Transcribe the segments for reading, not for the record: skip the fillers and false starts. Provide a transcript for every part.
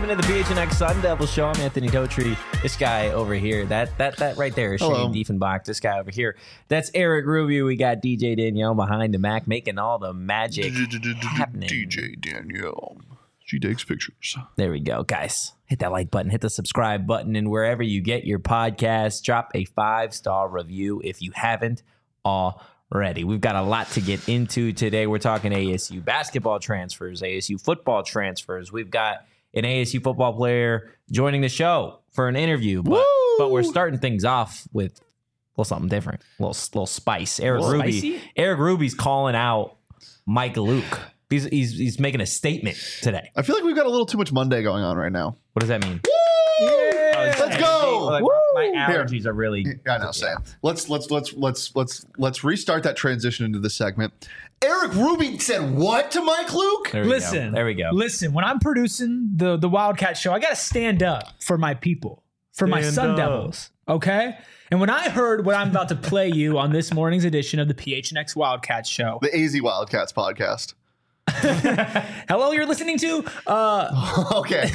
Welcome to the PHNX Sun Devil Show. I'm Anthony Totri. This guy over here, that right there is Shane Diefenbach. This guy over here, that's Eric Rubio. We got DJ Danielle behind the Mac making all the magic happening. DJ Danielle. She takes pictures. There we go, guys. Hit that like button, hit the subscribe button, and wherever you get your podcast, drop a 5-star review if you haven't already. We've got a lot to get into today. We're talking ASU basketball transfers, ASU football transfers. We've got an ASU football player joining the show for an interview, but we're starting things off with a little something different, a little spice. Eric Ruby's calling out Mike Luke. He's making a statement today. I feel like we've got a little too much Monday going on right now. What does that mean? Yeah. Let's go. My allergies are really. I know, Sam. Let's restart that transition into the segment. Eric Ruby said what to Mike Luke? There we go. Listen, when I'm producing the Wildcat show, I got to stand up for my people, for my Sun Devils. Okay. And when I heard what I'm about to play you on this morning's edition of the PHNX Wildcat show, the AZ Wildcats podcast. Hello, you're listening to. Okay.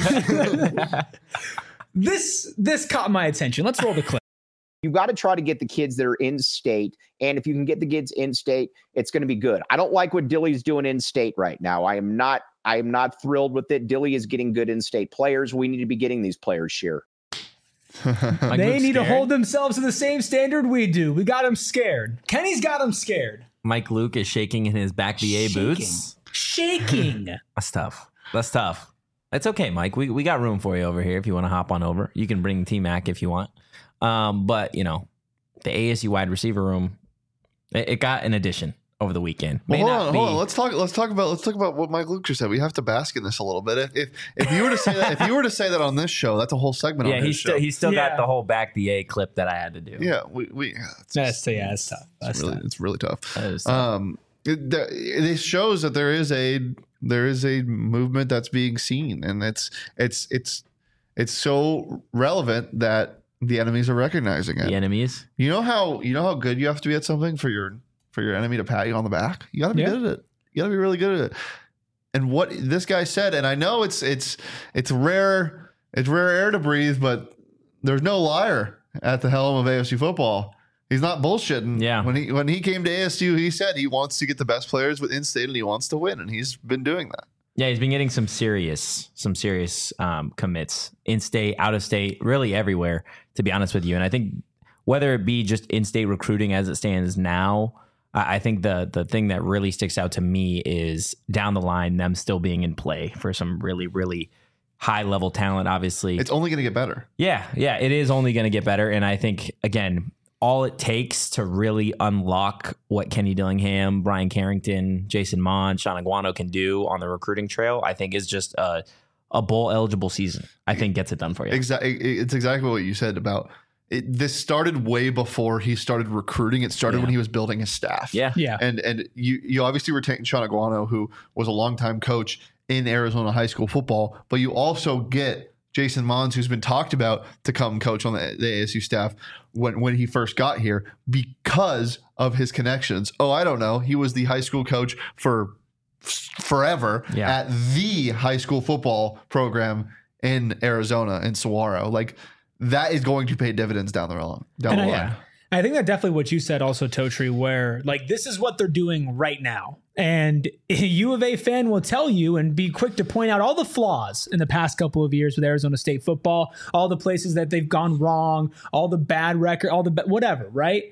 This caught my attention. Let's roll the clip. You've got to try to get the kids that are in state. And if you can get the kids in state, it's going to be good. I don't like what Dilly's doing in state right now. I am not thrilled with it. Dilly is getting good in state players. We need to be getting these players here. They need to hold themselves to the same standard we do. We got them scared. Kenny's got them scared. Mike Luke is shaking in his back VA boots. Shaking. That's tough. It's okay, Mike. We got room for you over here if you want to hop on over. You can bring T-Mac if you want. But, you know, the ASU wide receiver room, it got an addition over the weekend. Hold on. Let's talk about what Mike Luke just said. We have to bask in this a little bit. If you were to say that, on this show, that's a whole segment. Yeah, he's still got the whole back VA clip that I had to do. Yeah, it's tough. It's really tough. That is tough. It shows that there is a movement that's being seen, and it's so relevant that the enemies are recognizing it. The enemies. You know how good you have to be at something for your enemy to pat you on the back. You got to be good at it. You got to be really good at it. And what this guy said, and I know it's rare air to breathe, but there's no liar at the helm of ASU football. He's not bullshitting. Yeah. When he came to ASU, he said he wants to get the best players within state and he wants to win, and he's been doing that. Yeah, he's been getting some serious commits in state, out of state, really everywhere, to be honest with you. And I think whether it be just in-state recruiting as it stands now, I think the thing that really sticks out to me is down the line, them still being in play for some really, really high-level talent, obviously. It's only going to get better. Yeah, it is only going to get better. And I think, again, all it takes to really unlock what Kenny Dillingham, Brian Carrington, Jason Mon, Sean Aguano can do on the recruiting trail, I think is just a bowl-eligible season. I think gets it done for you. Exactly. It's exactly what you said about it. This started way before he started recruiting. It started when he was building his staff. Yeah. And you obviously retained Sean Aguano, who was a longtime coach in Arizona high school football, but you also get Jason Mons, who's been talked about to come coach on the ASU staff when he first got here because of his connections. Oh, I don't know. He was the high school coach for forever at the high school football program in Arizona, in Saguaro. Like, that is going to pay dividends down the line. Yeah. I think that definitely what you said also, Totri, where like this is what they're doing right now. And a U of A fan will tell you and be quick to point out all the flaws in the past couple of years with Arizona State football, all the places that they've gone wrong, all the bad record, all the whatever, right?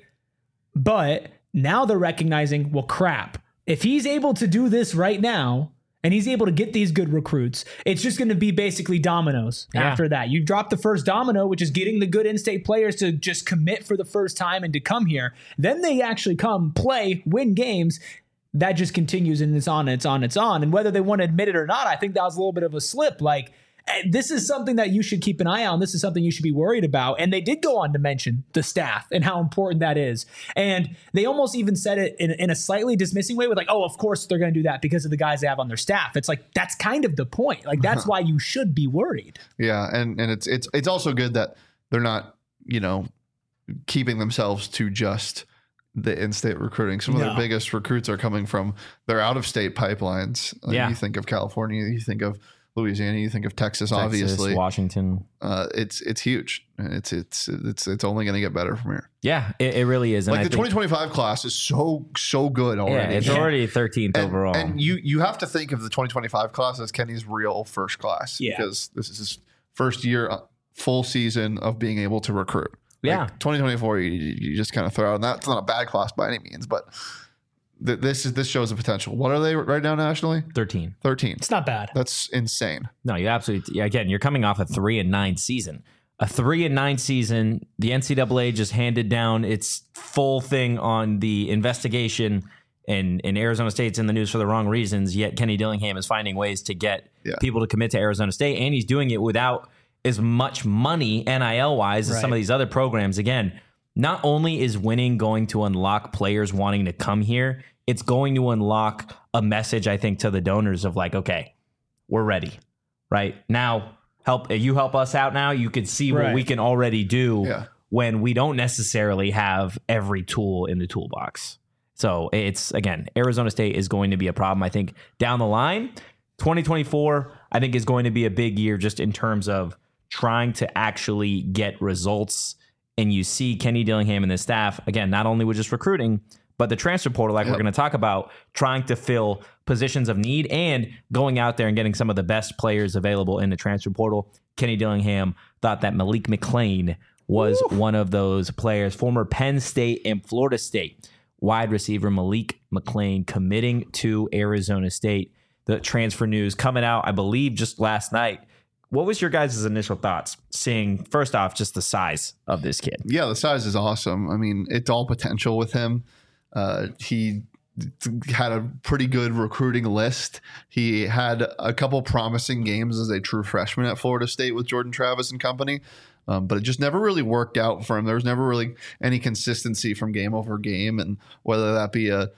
But now they're recognizing, well, crap, if he's able to do this right now, and he's able to get these good recruits, it's just going to be basically dominoes after that. You drop the first domino, which is getting the good in-state players to just commit for the first time and to come here. Then they actually come, play, win games. That just continues and it's on, it's on, it's on. And whether they want to admit it or not, I think that was a little bit of a slip. Like, this is something that you should keep an eye on. This is something you should be worried about. And they did go on to mention the staff and how important that is. And they almost even said it in a slightly dismissing way with like, oh, of course they're going to do that because of the guys they have on their staff. It's like, that's kind of the point. Like, that's why you should be worried. Yeah. And it's also good that they're not, keeping themselves to just the in-state recruiting. Some of their biggest recruits are coming from their out-of-state pipelines. You think of California, you think of Louisiana, you think of Texas obviously. Washington. It's huge. It's only going to get better from here. Yeah, it really is. And like the 2025 class is so good already. Yeah, it's already 13th overall. And you have to think of the 2025 class as Kenny's real first class, because this is his first year, full season of being able to recruit. Yeah. Like 2024, you just kind of throw out, and that's not a bad class by any means, but this shows the potential. What are they right now nationally? 13. It's not bad. That's insane. No, you absolutely. Again, you're coming off a 3-9 season. A 3-9 season. The NCAA just handed down its full thing on the investigation, and Arizona State's in the news for the wrong reasons. Yet Kenny Dillingham is finding ways to get people to commit to Arizona State, and he's doing it without as much money NIL wise as some of these other programs. Again, not only is winning going to unlock players wanting to come here, it's going to unlock a message, I think, to the donors of like, okay, we're ready right now. Help us out now. You can see what we can already do when we don't necessarily have every tool in the toolbox. So it's, again, Arizona State is going to be a problem, I think, down the line. 2024, I think, is going to be a big year just in terms of trying to actually get results. And you see Kenny Dillingham and his staff, again, not only with just recruiting, but the transfer portal, like we're going to talk about, trying to fill positions of need and going out there and getting some of the best players available in the transfer portal. Kenny Dillingham thought that Malik McClain was one of those players. Former Penn State and Florida State wide receiver Malik McClain committing to Arizona State. The transfer news coming out, I believe, just last night. What was your guys' initial thoughts seeing, first off, just the size of this kid? Yeah, the size is awesome. I mean, it's all potential with him. He had a pretty good recruiting list. He had a couple promising games as a true freshman at Florida State with Jordan Travis and company, but it just never really worked out for him. There was never really any consistency from game over game, and whether that be a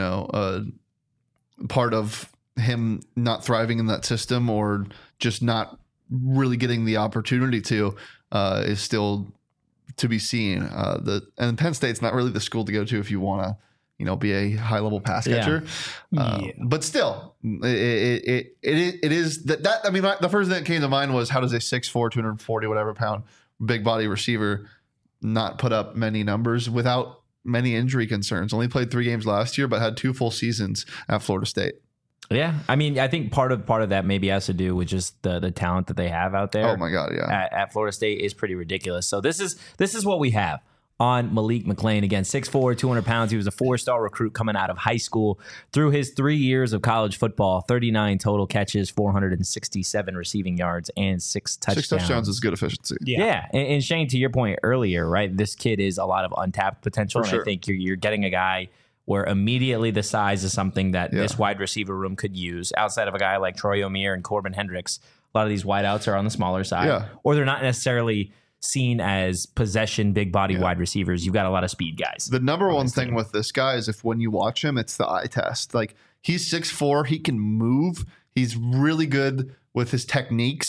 part of him not thriving in that system or just not really getting the opportunity to is still to be seen. And Penn State's not really the school to go to if you want to, be a high level pass catcher. But still, it is that. I mean, the first thing that came to mind was, how does a 6'4", 240 whatever pound big body receiver not put up many numbers without many injury concerns? Only played 3 games last year, but had 2 full seasons at Florida State. Yeah, I mean, I think part of that maybe has to do with just the talent that they have out there. Oh my God, yeah. At Florida State is pretty ridiculous. So this is what we have on Malik McClain. Again, 6'4", 200 pounds. He was a 4-star recruit coming out of high school. Through his 3 years of college football, 39 total catches, 467 receiving yards, and 6 touchdowns. 6 touchdowns is good efficiency. Yeah. And Shane, to your point earlier, right? This kid is a lot of untapped potential. For sure. I think you're getting a guy where immediately the size is something that this wide receiver room could use. Outside of a guy like Troy O'Meara and Corbin Hendricks, a lot of these wideouts are on the smaller side, or they're not necessarily seen as possession big body wide receivers. You've got a lot of speed guys. The number one thing with this guy is, if when you watch him, it's the eye test. Like, he's 6'4", he can move. He's really good with his technique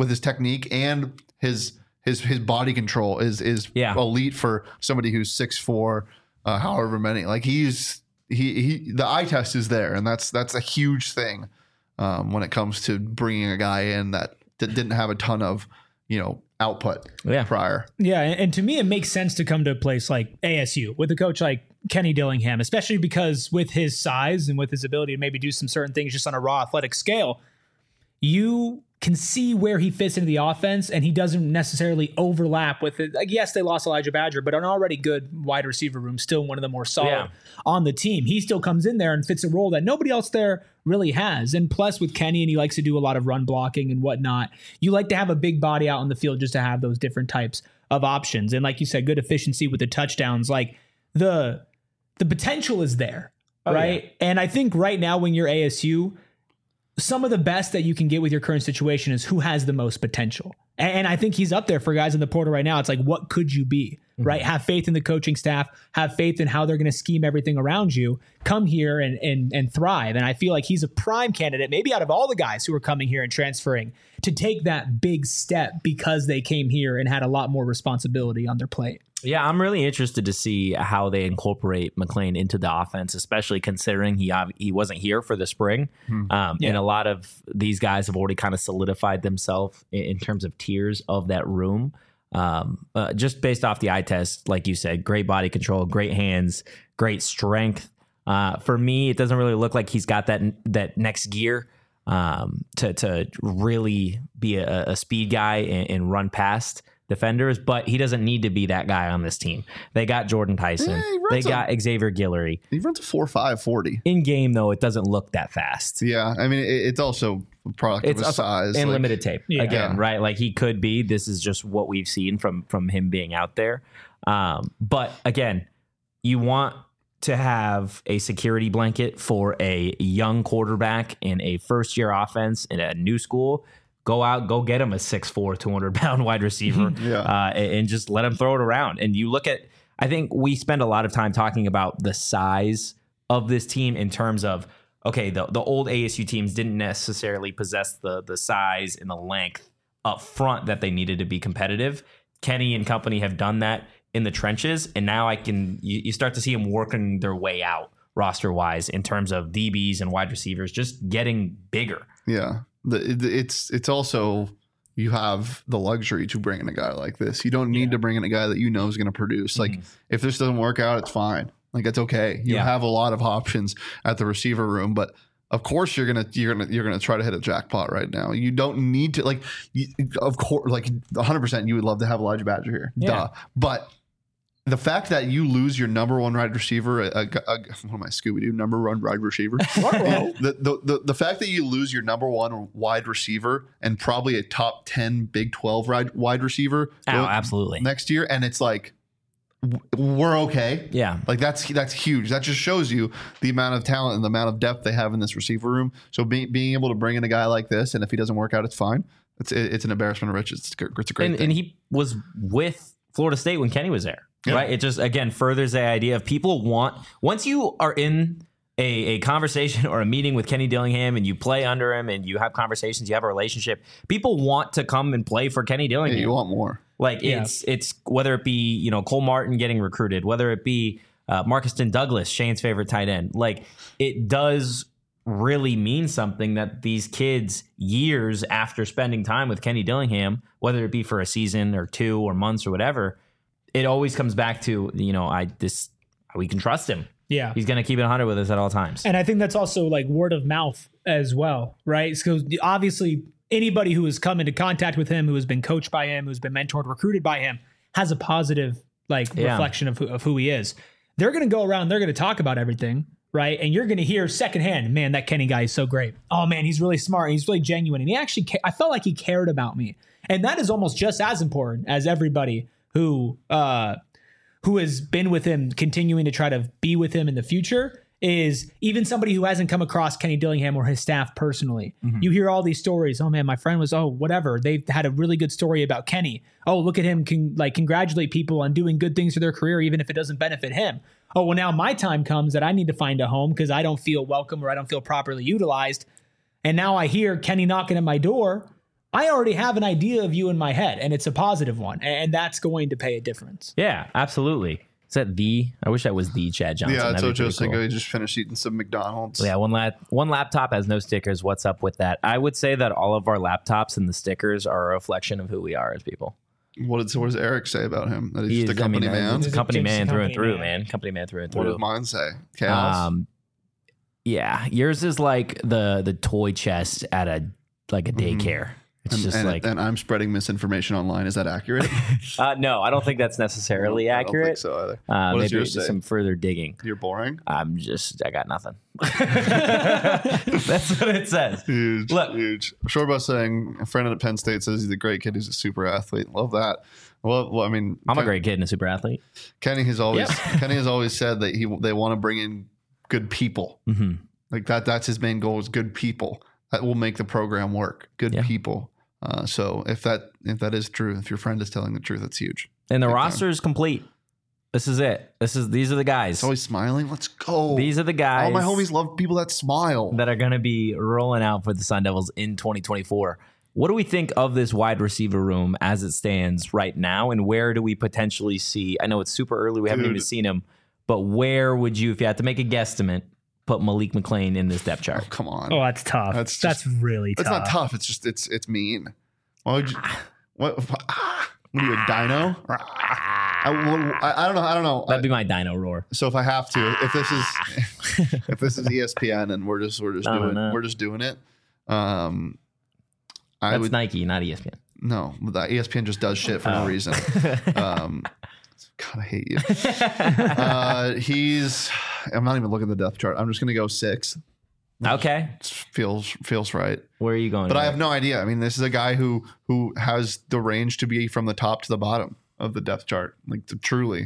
and his body control is elite for somebody who's 6'4". However many, like he the eye test is there, and that's a huge thing when it comes to bringing a guy in that didn't have a ton of output prior. Yeah, and to me, it makes sense to come to a place like ASU with a coach like Kenny Dillingham, especially because with his size and with his ability to maybe do some certain things just on a raw athletic scale, you can see where he fits into the offense, and he doesn't necessarily overlap with it. Like, yes, they lost Elijah Badger, but an already good wide receiver room, still one of the more solid on the team. He still comes in there and fits a role that nobody else there really has. And plus with Kenny, and he likes to do a lot of run blocking and whatnot, you like to have a big body out on the field just to have those different types of options. And like you said, good efficiency with the touchdowns. Like the potential is there, right? Yeah. And I think right now when you're ASU, some of the best that you can get with your current situation is who has the most potential. And I think he's up there for guys in the portal right now. It's like, what could you be? right? Have faith in the coaching staff, have faith in how they're going to scheme everything around you. Come here and thrive. And I feel like he's a prime candidate, maybe out of all the guys who are coming here and transferring, to take that big step because they came here and had a lot more responsibility on their plate. Yeah, I'm really interested to see how they incorporate McClain into the offense, especially considering he wasn't here for the spring. And a lot of these guys have already kind of solidified themselves in terms of tiers of that room. Just based off the eye test, like you said, great body control, great hands, great strength. For me, it doesn't really look like he's got that next gear to really be a speed guy and run past defenders, but he doesn't need to be that guy on this team. They got Jordan Tyson. They got Xavier Guillory. He runs a 4.5 40. In game, though, it doesn't look that fast. Yeah, I mean, it's also a product of his size. And like, limited tape. Again, right? Like he could be. This is just what we've seen from him being out there. But again, you want to have a security blanket for a young quarterback in a first-year offense in a new school. Go out, go get him a 6'4", 200-pound wide receiver and just let him throw it around. And you look at, I think we spend a lot of time talking about the size of this team in terms of, okay, the old ASU teams didn't necessarily possess the size and the length up front that they needed to be competitive. Kenny and company have done that in the trenches, and now you start to see them working their way out roster-wise in terms of DBs and wide receivers just getting bigger. Yeah. It's also, you have the luxury to bring in a guy like this. You don't need to bring in a guy that you know is going to produce. Like if this doesn't work out, it's fine. Like it's okay. You have a lot of options at the receiver room, but of course you're gonna try to hit a jackpot right now. You don't need to of course, like 100%. You would love to have Elijah Badger here, duh. But the fact that you lose your number one wide receiver, what am I, Scooby-Doo, number one wide receiver? the fact that you lose your number one wide receiver and probably a top 10 Big 12 wide receiver absolutely next year, and it's like, we're okay. Yeah. Like that's huge. That just shows you the amount of talent and the amount of depth they have in this receiver room. So being able to bring in a guy like this, and if he doesn't work out, it's fine. It's an embarrassment of riches. It's a great thing. And he was with Florida State when Kenny was there. Yeah. Right. It just, again, furthers the idea of people once you are in a conversation or a meeting with Kenny Dillingham and you play under him and you have conversations, you have a relationship, people want to come and play for Kenny Dillingham. Yeah, you want more. Like it's whether it be, Cole Martin getting recruited, whether it be Marcuston Douglas, Shane's favorite tight end, like it does really mean something that these kids years after spending time with Kenny Dillingham, whether it be for a season or 2 or months or whatever, it always comes back to, we can trust him. Yeah. He's going to keep it 100 with us at all times. And I think that's also like word of mouth as well, right? Because obviously anybody who has come into contact with him, who has been coached by him, who's been mentored, recruited by him, has a positive reflection of who he is. They're going to go around, they're going to talk about everything, right? And you're going to hear secondhand, man, that Kenny guy is so great. Oh man, he's really smart. And he's really genuine. And he actually, I felt like he cared about me. And that is almost just as important as everybody who has been with him, continuing to try to be with him in the future, is even somebody who hasn't come across Kenny Dillingham or his staff personally. Mm-hmm. You hear all these stories. Oh man, my friend was, whatever. They've had a really good story about Kenny. Oh, look at him, congratulate people on doing good things for their career, even if it doesn't benefit him. Oh, well, now my time comes that I need to find a home because I don't feel welcome or I don't feel properly utilized. And now I hear Kenny knocking at my door. I already have an idea of you in my head, and it's a positive one, and that's going to pay a difference. Yeah, absolutely. Is that I wish that was the Chad Johnson. Yeah, that's what Joe Cinco. He just finished eating some McDonald's. Yeah, one laptop has no stickers. What's up with that? I would say that all of our laptops and the stickers are a reflection of who we are as people. What does Eric say about him? That he's just a company man? He's a company man through and through, man. Company man through and through. What does mine say? Chaos? Yeah, yours is like the toy chest at a daycare. It's and I'm spreading misinformation online. Is that accurate? No, I don't think that's necessarily accurate. I don't think so either. What does yours say? Some further digging. You're boring? I got nothing. That's what it says. Huge. Look, huge. Shortbus saying, a friend at Penn State says he's a great kid. He's a super athlete. Love that. Well, I mean, I'm a great kid and a super athlete. Kenny has always said that they want to bring in good people. Mm-hmm. Like that's his main goal is good people. That will make the program work. Good people. So if that is true, if your friend is telling the truth, that's huge. And the Big roster is complete. This is it. These are the guys. It's always smiling. Let's go. These are the guys. All my homies love people that smile. That are going to be rolling out for the Sun Devils in 2024. What do we think of this wide receiver room as it stands right now, and where do we potentially see? I know it's super early. We haven't even seen him, but where would you, if you had to make a guesstimate, put Malik McClain in this depth chart? Oh, come on. Oh, that's tough. That's really tough. It's not tough. It's just it's mean. Why would you? What are you, a dino? I don't know. That'd be my dino roar. So if I have to, if this is ESPN and we're just doing it. That's Nike, not ESPN. No, the ESPN just does shit for no reason. God, I hate you. I'm not even looking at the depth chart. I'm just gonna go 6. Okay, feels right. Where are you going? But I have no idea. I mean, this is a guy who has the range to be from the top to the bottom of the depth chart, like truly.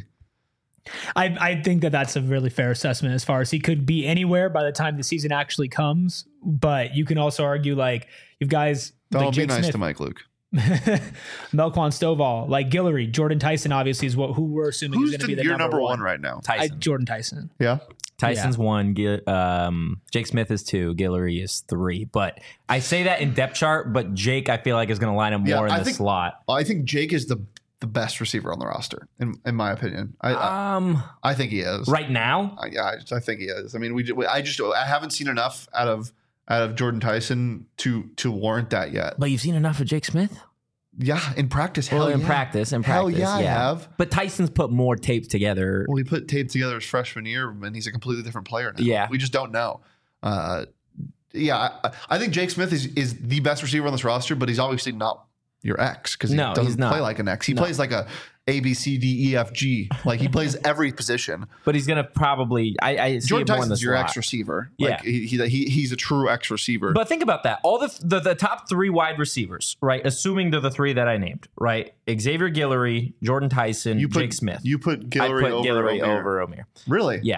I think that's a really fair assessment as far as he could be anywhere by the time the season actually comes. But you can also argue like you've guys That'll like be Jake nice Smith, to Mike Luke. Melquan Stovall, like Guillory, Jordan Tyson obviously is who we're assuming is going to be the your number one right now? Tyson. Jordan Tyson. Yeah. Tyson's 1. Jake Smith is 2. Guillory is 3. But I say that in depth chart, but Jake I feel like is going to line up more in the slot. I think Jake is the best receiver on the roster, in my opinion. I think he is right now. I think he is. I mean, I haven't seen enough out of Jordan Tyson to warrant that yet. But you've seen enough of Jake Smith. Yeah, in practice. In practice. Hell yeah, I have. But Tyson's put more tape together. Well, he put tape together his freshman year, and he's a completely different player now. Yeah, we just don't know. I think Jake Smith is the best receiver on this roster, but he's obviously not your X because he doesn't play like an X. He plays like a A, B, C, D, E, F, G. Like he plays every position. But he's gonna probably. I see Jordan him more in the Tyson's your slot. X receiver. Yeah, like he's a true X receiver. But think about that. All the top 3 wide receivers, right? Assuming they're the 3 that I named, right? Xavier Guillory, Jordan Tyson, Jake Smith. You put Guillory over Omer. Really? Yeah.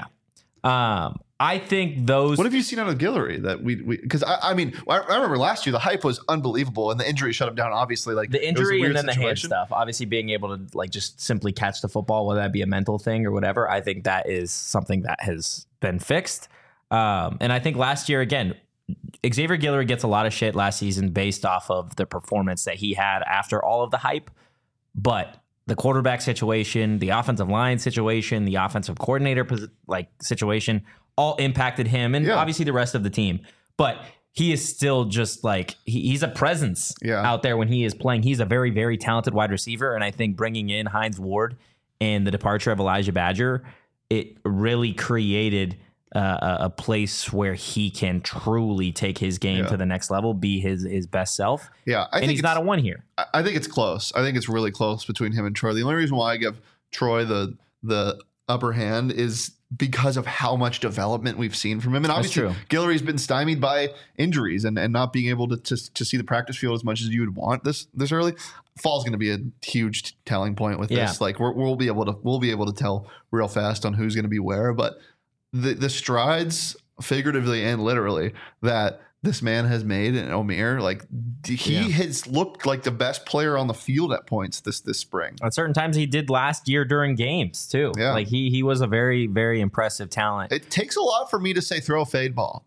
I think those. What have you seen out of Guillory that we because I mean I remember last year the hype was unbelievable and the injury shut him down. Obviously, like the injury and then situation. the hand stuff. Obviously, being able to like just simply catch the football, whether that be a mental thing or whatever. I think that is something that has been fixed. And I think last year again, Xavier Guillory gets a lot of shit last season based off of the performance that he had after all of the hype, but the quarterback situation, the offensive line situation, the offensive coordinator situation all impacted him and obviously the rest of the team. But he is still just like he's a presence out there when he is playing. He's a very, very talented wide receiver. And I think bringing in Hines Ward and the departure of Elijah Badger, it really created a place where he can truly take his game to the next level, be his best self. Yeah, and he's not a one here. I think it's close. I think it's really close between him and Troy. The only reason why I give Troy the upper hand is because of how much development we've seen from him. And obviously Guillory's been stymied by injuries and not being able to see the practice field as much as you would want this early. Fall's going to be a huge telling point with this. Like we'll be able to tell real fast on who's going to be where, but the strides figuratively and literally that this man has made in Omer, like he has looked like the best player on the field at points this spring. At certain times he did last year during games too. Yeah. Like he was a very, very impressive talent. It takes a lot for me to say throw a fade ball.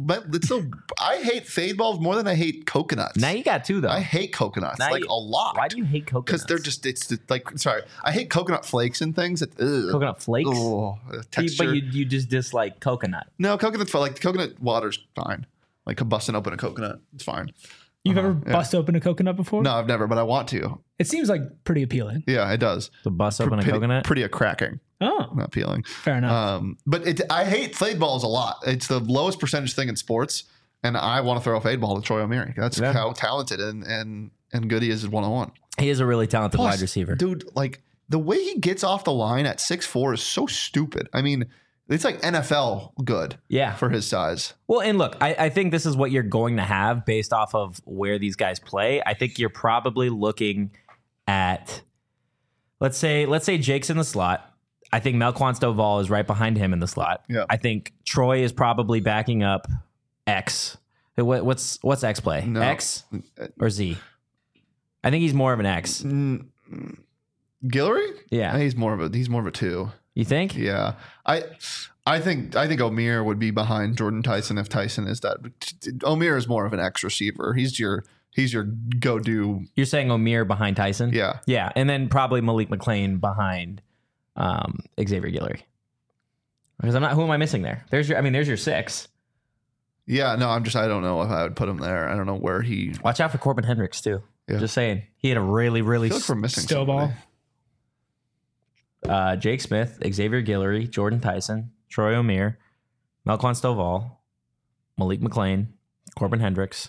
I hate fade balls more than I hate coconuts. Now you got 2 though. I hate coconuts a lot. Why do you hate coconuts? Because I hate coconut flakes and things. Coconut flakes? Texture. But you just dislike coconut. No, coconut's fine. Like coconut water's fine. Like busting open a coconut, it's fine. You've ever bust open a coconut before? No, I've never, but I want to. It seems like pretty appealing. Yeah, it does. To bust open a coconut? Pretty cracking. Oh. Not appealing. Fair enough. But I hate fade balls a lot. It's the lowest percentage thing in sports, and I want to throw a fade ball to Troy Omeire. That's how talented and good he is one-on-one. He is a really talented wide receiver. Dude, like the way he gets off the line at 6'4" is so stupid. I mean, it's like NFL good for his size. Well, and look, I think this is what you're going to have based off of where these guys play. I think you're probably looking at, let's say Jake's in the slot. I think Melquan Stovall is right behind him in the slot. Yeah. I think Troy is probably backing up X. What's X play? No. X or Z? I think he's more of an X. Guillory? Yeah. He's more of a 2. You think? Yeah. I think O'Meara would be behind Jordan Tyson if Tyson is that. O'Meara is more of an X receiver. He's your go-do. You're saying O'Meara behind Tyson? Yeah. Yeah. And then probably Malik McClain behind Xavier Guillory. Because who am I missing there? There's your 6. Yeah, no, I don't know if I would put him there. I don't know where he. Watch out for Corbin Hendricks too. Yeah. Just saying. He had a really, really I feel like we're missing Stovall. somebody. Jake Smith, Xavier Guillory, Jordan Tyson, Troy O'Meara, Melquan Stovall, Malik McClain, Corbin Hendricks.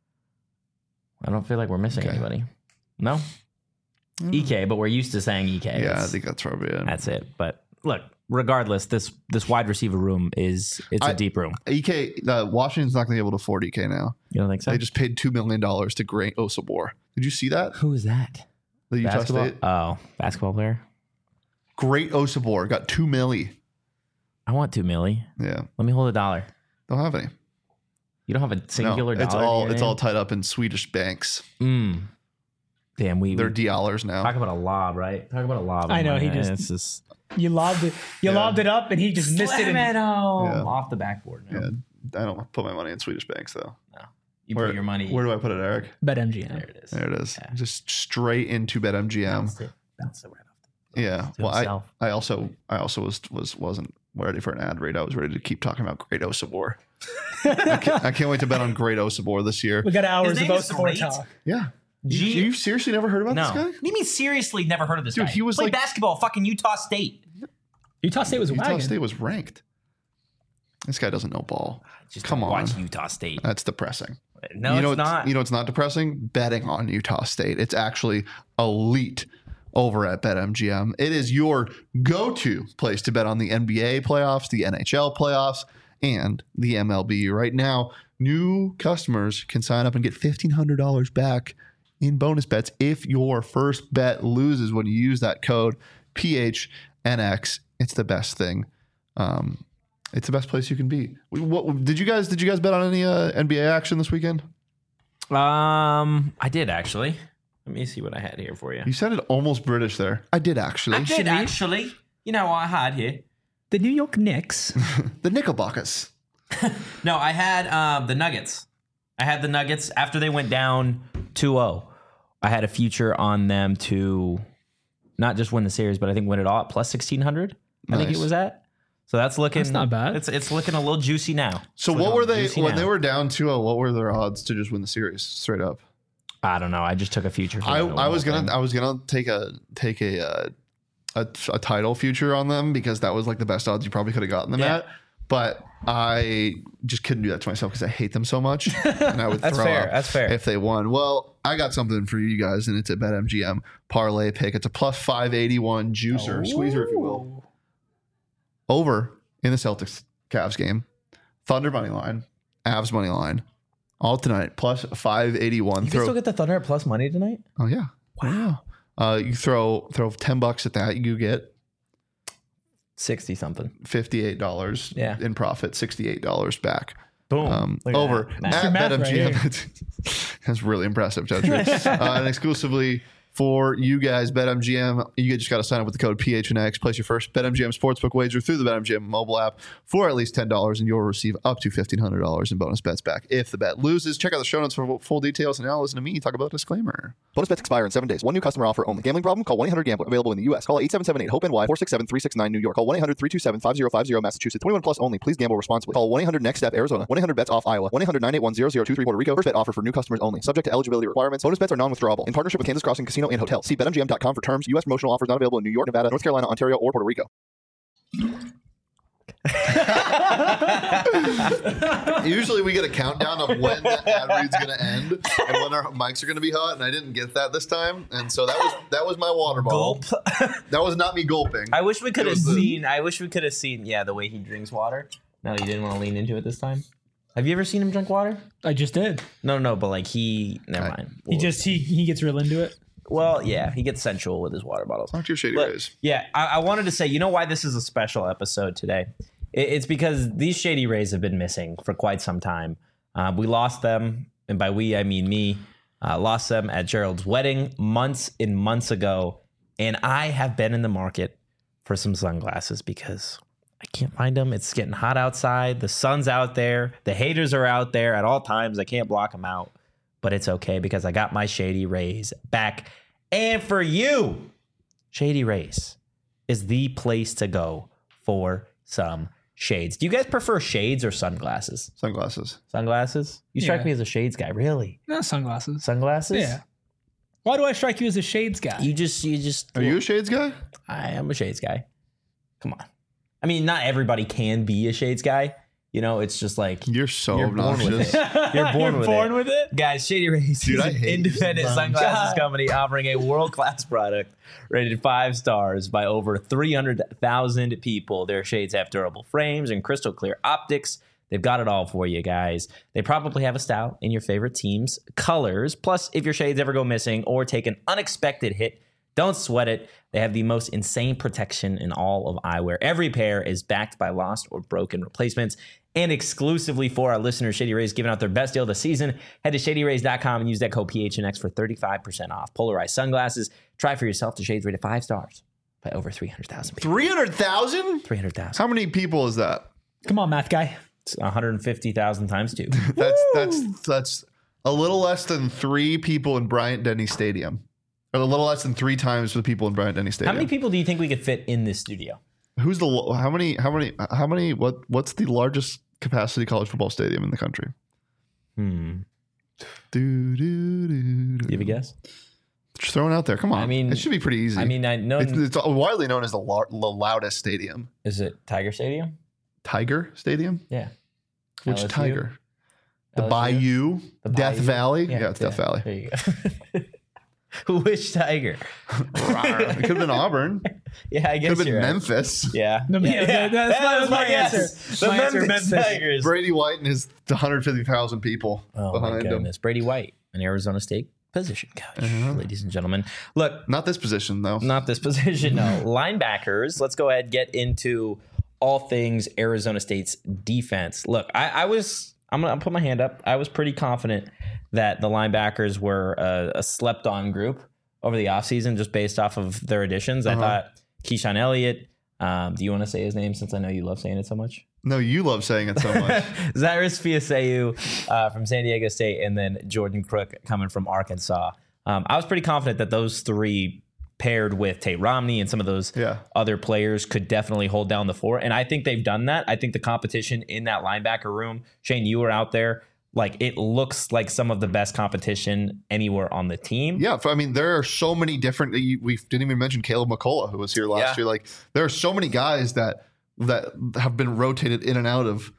I don't feel like we're missing anybody. No? EK, but we're used to saying EK. Yeah, I think that's probably it. That's it. But look, regardless, this wide receiver room it's a deep room. EK, Washington's not going to be able to afford EK now. You don't think so? They just paid $2 million to Grant Osabor. Did you see that? Who is that? The Utah Basketball? State. Oh, basketball player? Great Osabor got $2 million. I want $2 million. Yeah, Let me hold $1. don't have any. You don't have a singular No, dollar? it's all tied up in Swedish banks. Damn, They're DLRs now. talk about a lob, right? Talk about a lob. I know, he It's just- just You lobbed it. Lobbed it up, and he just missed it. slam it home Yeah. off the backboard. No. Yeah, I don't put my money in Swedish banks though. You Where- put your money. Where do I put it, Eric? BetMGM. There it is. There it is. Yeah. Just straight into BetMGM. Bounce it right off. Yeah. To Well, himself. I also wasn't ready for an ad read. I was ready to keep talking about Great Osabor. I can't wait to bet on Great Osabor this year. We got hours His of name is both great. talk. Yeah. G- You seriously never heard about No. this guy? What do you mean seriously never heard of this Dude, guy? he was Played like- basketball, fucking Utah State. Utah State was a Utah wagon. State was ranked. This guy doesn't know ball. Just Come don't on. watch Utah State. That's depressing. No, you know it's not. You know it's not depressing? Betting on Utah State. It's actually elite over at BetMGM. It is your go-to place to bet on the NBA playoffs, the NHL playoffs, and the MLB. Right now, new customers can sign up and get $1,500 back in bonus bets if your first bet loses when you use that code PHNX. It's the best thing. It's the best place you can be. What did you guys bet on any NBA action this weekend? I did actually. Let me see what I had here for you. You sounded almost British there. I did actually. I did actually. You know what I had here? The New York Knicks. The Knickerbockers. No, I had the Nuggets. I had the Nuggets after they went down 2-0. I had a future on them to not just win the series, but I think win it all at plus 1,600. I think it Nice. was at. So that's looking. That's not bad. It's looking a little juicy now. So It's what looking were they juicy when now. they were down 2-0? What were their odds to just win the series straight up? I don't know. I just took a future. For I them to win was the whole gonna thing. take a title future on them because that was like the best odds you probably could have gotten them Yeah. at. But I just couldn't do that to myself because I hate them so much, and I would That's throw fair. up That's fair. if they won. Well, I got something for you guys, and it's a BetMGM parlay pick. It's a plus 581 juicer, squeezer, if you will. Over in the Celtics Cavs game, Thunder money line, Avs money line, all tonight plus 581. You can still get the Thunder at plus money tonight. Oh yeah, Wow. you throw $10 at that, you get 60 something. $58 Yeah. in profit, $68 back. Boom. Look at Over that. Math. at Math right BetMGM. That's really impressive, Judge. And exclusively for you guys, BetMGM, you just got to sign up with the code PHNX. Place your first BetMGM sportsbook wager through the BetMGM mobile app for at least $10, and you'll receive up to $1,500 in bonus bets back if the bet loses. Check out the show notes for full details, and now listen to me talk about a disclaimer. Bonus bets expire in 7 days. One new customer offer only. Gambling problem? Call 1-800-GAMBLER. Available in the U.S. Call 877-8-HOPE-NY 467-369 New York. Call 1-800-327-5050 Massachusetts. 21 plus only. Please gamble responsibly. Call 1-800-NEXT-STEP Arizona. 1-800-BETS-OFF Iowa. 1-800-981-0023 Puerto Rico. First bet offer for new customers only. Subject to eligibility requirements. Bonus bets are non-withdrawable. In partnership with Kansas Crossing Casino and Hotel. See BetMGM.com for terms. U.S. promotional offers not available in New York, Nevada, North Carolina, Ontario, or Puerto Rico. Usually we get a countdown of when the ad read's going to end and when our mics are going to be hot, and I didn't get that this time, and so that was my water bottle. Gulp. That was not me gulping. I wish we could It have was the- seen. I wish we could have seen. Yeah, the way he drinks water. No, you didn't want to lean into it this time. Have you ever seen him drink water? I just did. No, but like never mind. He gets real into it. Well, yeah, he gets sensual with his water bottles. Talk to your shady But, rays. yeah, I wanted to say, you know why this is a special episode today? It's because these Shady Rays have been missing for quite some time. We lost them, and by we, I mean me, Lost them at Gerald's wedding months and months ago. And I have been in the market for some sunglasses because I can't find them. It's getting hot outside. The sun's out there. The haters are out there at all times. I can't block them out. But it's okay because I got my Shady Rays back. And for you, Shady Rays is the place to go for some shades. Do you guys prefer shades or sunglasses? Sunglasses. Sunglasses? You strike Yeah. me as a shades guy, really? No, sunglasses. Sunglasses? Yeah. Why do I strike you as a shades guy? You just. Are you a shades guy? I am a shades guy. Come on. I mean, not everybody can be a shades guy. You know, it's just like You're so you're born with obnoxious. it. You're born, with, it. Guys, Shady Rays Dude, is I an hate independent these sunglasses God. company offering a world-class product rated 5 stars by over 300,000 people. Their shades have durable frames and crystal clear optics. They've got it all for you guys. They probably have a style in your favorite team's colors. Plus, if your shades ever go missing or take an unexpected hit, don't sweat it. They have the most insane protection in all of eyewear. Every pair is backed by lost or broken replacements. And exclusively for our listeners, Shady Rays giving out their best deal of the season. Head to shadyrays.com and use that code PHNX for 35% off. Polarized sunglasses. Try for yourself. The shades rated 5 stars by over 300,000 people. 300,000? 300,000. How many people is that? Come on, math guy. It's 150,000 times 2. That's a little less than 3 people in Bryant Denny Stadium. Or a little less than 3 times the people in Bryant Denny How Stadium. many people do you think we could fit in this studio? Who's the what's the largest capacity college football stadium in the country? Do you have a guess? Just throwing it out there. Come on. I mean, it should be pretty easy. I mean, I know. it's widely known as the loudest stadium. Is it Tiger Stadium? Tiger Stadium? Yeah. Which LSU? Tiger? The LSU? Bayou? The Death Bayou? Valley? Yeah, it's Death Valley. There you go. Which Tiger? It could have been Auburn. Yeah, I Could guess have been you're right. Memphis. Yeah. That's my answer. The My answer, Memphis Memphis. Tigers. Brady White and his 150,000 people Oh my behind him. goodness. Brady White, an Arizona State position coach, ladies and gentlemen. Look, Not this position, though. not this position, no. Linebackers. Let's go ahead and get into all things Arizona State's defense. Look, I'm gonna put my hand up. I was pretty confident that the linebackers were a slept-on group over the offseason just based off of their additions. I thought Keyshawn Elliott. Do you want to say his name since I know you love saying it so much? No, you love saying it so much. Zyrus Fiaseu from San Diego State, and then Jordan Crook coming from Arkansas. I was pretty confident that those 3 paired with Tate Romney and some of those other players could definitely hold down the fort. And I think they've done that. I think the competition in that linebacker room, Shane, you were out there. Like, it looks like some of the best competition anywhere on the team. Yeah, I mean, there are so many different. We didn't even mention Caleb McCullough, who was here last year. Like, there are so many guys that have been rotated in and out of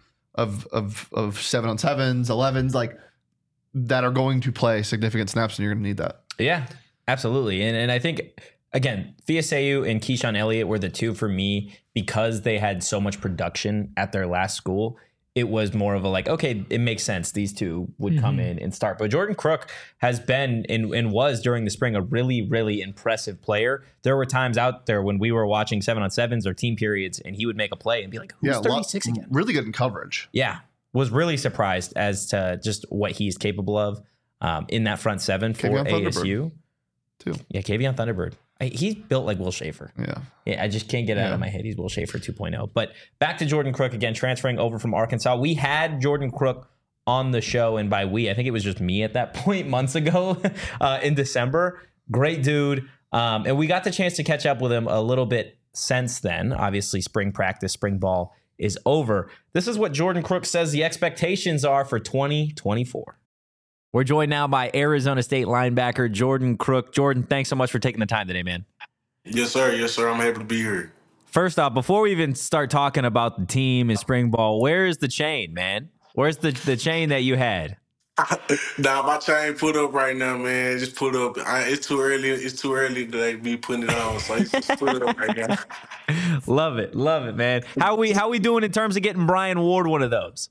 7-on-7s, 11s, like that are going to play significant snaps, and you're going to need that. Yeah, absolutely. And I think, again, Fiaseu and Keyshawn Elliott were the 2 for me because they had so much production at their last school. It was more of a like, okay, it makes sense. These 2 would come in and start. But Jordan Crook has been and was during the spring a really, really impressive player. There were times out there when we were watching 7-on-7s or team periods and he would make a play and be like, who's 36 again? Really good in coverage. Yeah. Was really surprised as to just what he's capable of in that front 7 for Kavion ASU. Too. Yeah, Kavion Thunderbird. He's built like Will Schaefer. Yeah. I just can't get it out of my head. He's Will Schaefer 2.0. But back to Jordan Crook again, transferring over from Arkansas. We had Jordan Crook on the show, and by we, I think it was just me at that point months ago in December. Great dude. And we got the chance to catch up with him a little bit since then. Obviously, spring practice, spring ball is over. This is what Jordan Crook says the expectations are for 2024. We're joined now by Arizona State linebacker Jordan Crook. Jordan, thanks so much for taking the time today, man. Yes, sir. Yes, sir. I'm happy to be here. First off, before we even start talking about the team and spring ball, where is the chain, man? Where's the chain that you had? Nah, my chain put up right now, man. Just put up. It's too early. It's too early to like, be putting it on. So just put it up right now. Love it, man. How we doing in terms of getting Brian Ward one of those?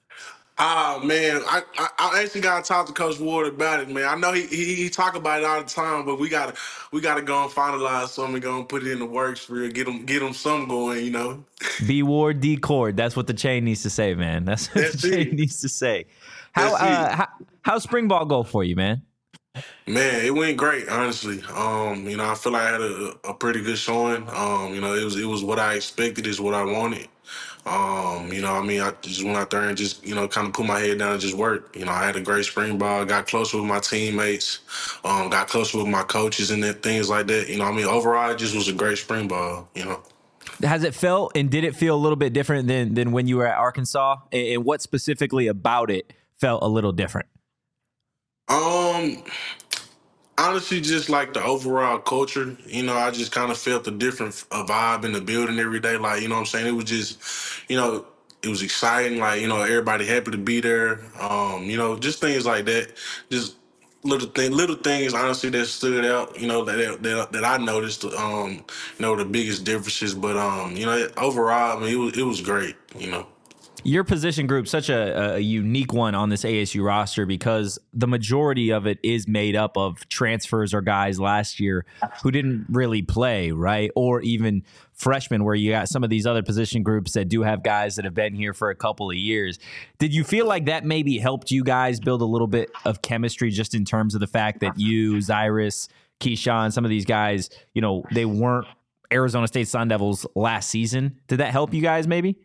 Man, I actually got to talk to Coach Ward about it, man. I know he talk about it all the time, but we gotta go and finalize something, go and put it in the works for real, get him some going, you know. B Ward D Cord. That's what the chain needs to say, man. That's what the chain needs to say. How's spring ball go for you, man? Man, it went great, honestly. I feel like I had a pretty good showing. It was what I expected, is what I wanted. I just went out there and just, kind of put my head down and just worked. I had a great spring ball, got closer with my teammates, got closer with my coaches and things like that. Overall, it just was a great spring ball. Has it felt and did it feel a little bit different than when you were at Arkansas? And what specifically about it felt a little different? Um, Honestly, just like the overall culture, I just kind of felt a different vibe in the building every day. Like, you know what I'm saying? It was just, it was exciting. Like, everybody happy to be there. Just things like that. Just little things, honestly, that stood out, that I noticed, the biggest differences. But, overall, I mean, it was great. Your position group, such a unique one on this ASU roster because the majority of it is made up of transfers or guys last year who didn't really play, right? Or even freshmen, where you got some of these other position groups that do have guys that have been here for a couple of years. Did you feel like that maybe helped you guys build a little bit of chemistry just in terms of the fact that you, Cyrus, Keyshawn, some of these guys, they weren't Arizona State Sun Devils last season? Did that help you guys maybe?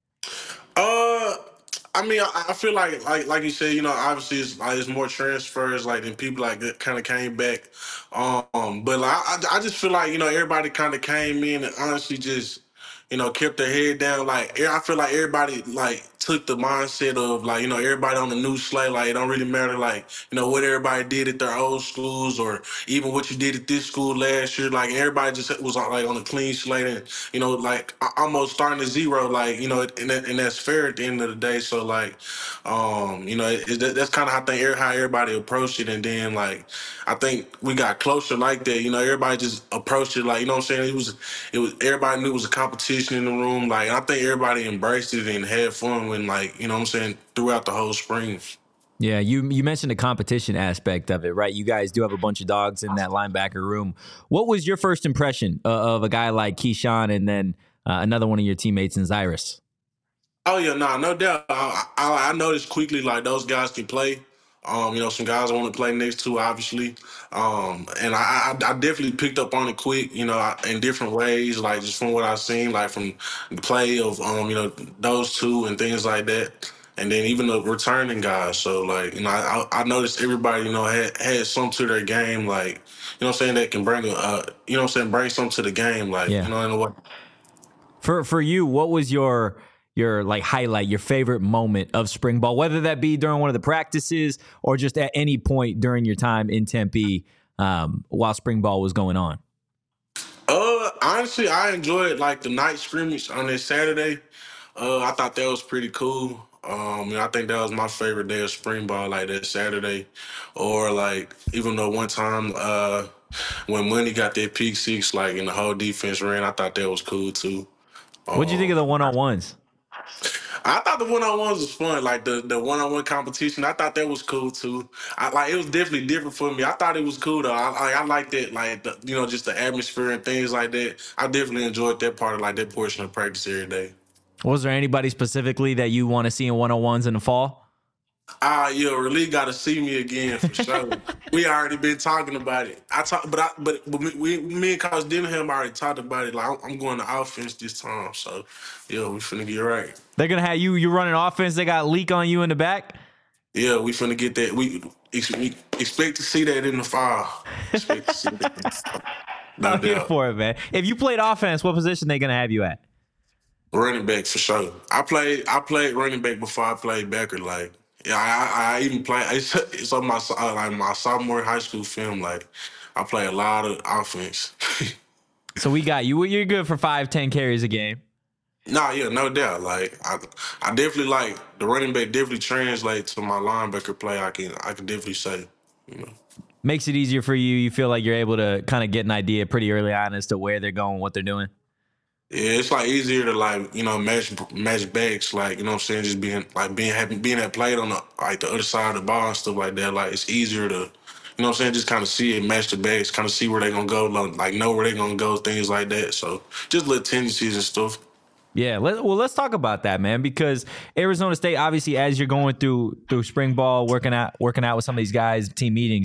I feel like you said, obviously it's more transfers like than people like that kind of came back. But like I just feel like everybody kind of came in and honestly just kept their head down. Like I feel like everybody like took the mindset of like everybody on the new slate. Like it don't really matter like what everybody did at their old schools or even what you did at this school last year. Like everybody just was like on a clean slate and like almost starting at zero. Like and that's fair at the end of the day. So like that's kind of how everybody approached it. And then like I think we got closer like that. Everybody just approached it like what I'm saying. It was everybody knew it was a competition in the room. Like I think everybody embraced it and had fun when like what I'm saying throughout the whole spring. Yeah, you mentioned the competition aspect of it, right? You guys do have a bunch of dogs in that linebacker room. What was your first impression of a guy like Keyshawn and then another one of your teammates in Cyrus? Oh yeah, no doubt. I noticed quickly like those guys can play. Some guys I want to play next to, obviously. And I definitely picked up on it quick, in different ways, like just from what I've seen, like from the play of, those two and things like that. And then even the returning guys. So like, I noticed everybody, had some to their game, like, that can bring, bring something to the game, like, Yeah. in a way. For you, what was your like highlight, your favorite moment of spring ball, whether that be during one of the practices or just at any point during your time in Tempe while spring ball was going on? Honestly, I enjoyed like the night scrimmage on this Saturday. I thought that was pretty cool. I think that was my favorite day of spring ball, like that Saturday, or like even though one time when Money got that pick six, like and the whole defense ran, I thought that was cool too. What'd you think of the one-on-ones? I thought the one-on-ones was fun, like the one-on-one competition. I thought that was cool too. It was definitely different for me. I thought it was cool though. I liked it, like just the atmosphere and things like that. I definitely enjoyed that part of like that portion of practice every day. Was there anybody specifically that you want to see in one-on-ones in the fall? Really got to see me again for sure. We already been talking about it. But me and Coach Denham already talked about it. Like I'm going to offense this time, so we finna get right. They're gonna have you running offense. They got Leak on you in the back. Yeah, we finna get that. We expect to see that in the fall. Expect to see that. I'm here for it, man. If you played offense, what position they gonna have you at? Running back for sure. I played running back before I played backer. Like, yeah, I even played. It's on my my sophomore high school film. Like, I play a lot of offense. So we got you. You're good for 5-10 carries a game. Nah, yeah, no doubt. Like, I definitely like the running back. Definitely translate to my linebacker play. I can definitely say, Makes it easier for you. You feel like you're able to kind of get an idea pretty early on as to where they're going, what they're doing. Yeah, it's like easier to like match backs, like what I'm saying, just being that played on the other side of the ball and stuff like that. Like it's easier to what I'm saying, just kind of see it, match the backs, kind of see where they're gonna go, like know where they're gonna go, things like that. So just little tendencies and stuff. Yeah, let's talk about that, man, because Arizona State, obviously, as you're going through spring ball, working out with some of these guys, team meetings,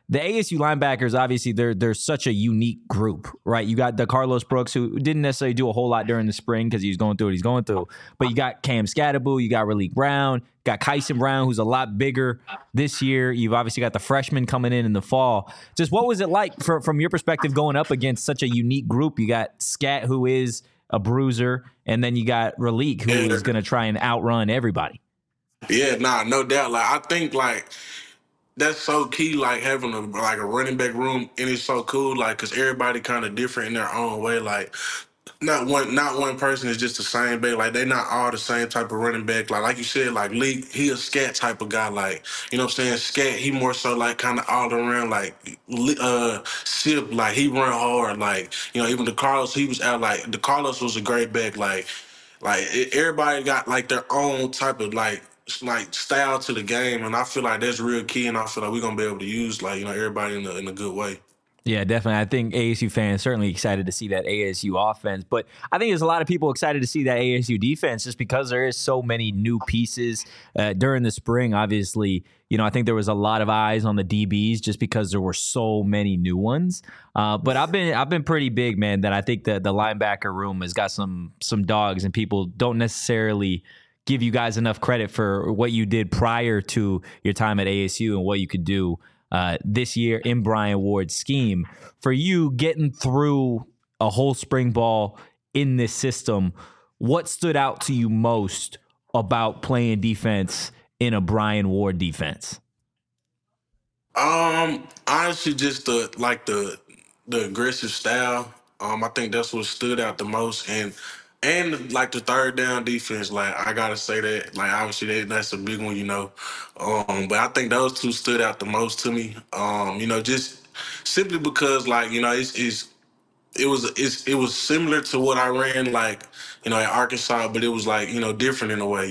the ASU linebackers, obviously, they're such a unique group, right? You got the Carlos Brooks, who didn't necessarily do a whole lot during the spring because he was going through what he's going through. But you got Cam Scatterbull, you got Raleek Brown, got Kyson Brown, who's a lot bigger this year. You've obviously got the freshmen coming in the fall. Just what was it like from your perspective going up against such a unique group? You got Scat, who is a bruiser, and then you got Raleek, who is going to try and outrun everybody. Yeah, no doubt. Like I think like that's so key. Like having a running back room, and it's so cool. Like because everybody kind of different in their own way. Like not one person is just the same back. Like they not all the same type of running back. Like you said, like Leak, he a Scat type of guy. Like you know what I'm saying. Scat, he more so like kind of all around. Like Sip, like he run hard. Like you know even the Carlos, he was out. Like the Carlos was a great back. Everybody got like their own type of like style to the game, and I feel like that's real key, and I feel like we're gonna be able to use everybody in a good way. Yeah, definitely. I think ASU fans certainly excited to see that ASU offense, but I think there's a lot of people excited to see that ASU defense just because there is so many new pieces during the spring. Obviously, I think there was a lot of eyes on the DBs just because there were so many new ones. But I've been pretty big, man, that I think that the linebacker room has got some dogs, and people don't necessarily give you guys enough credit for what you did prior to your time at ASU and what you could do this year in Brian Ward's scheme. For you getting through a whole spring ball in this system, what stood out to you most about playing defense in a Brian Ward defense? Honestly, just the aggressive style. I think that's what stood out the most, and like the third down defense. Like I gotta say that. Like obviously that's a big one, But I think those two stood out the most to me. Just simply because it was similar to what I ran at Arkansas, but it was different in a way,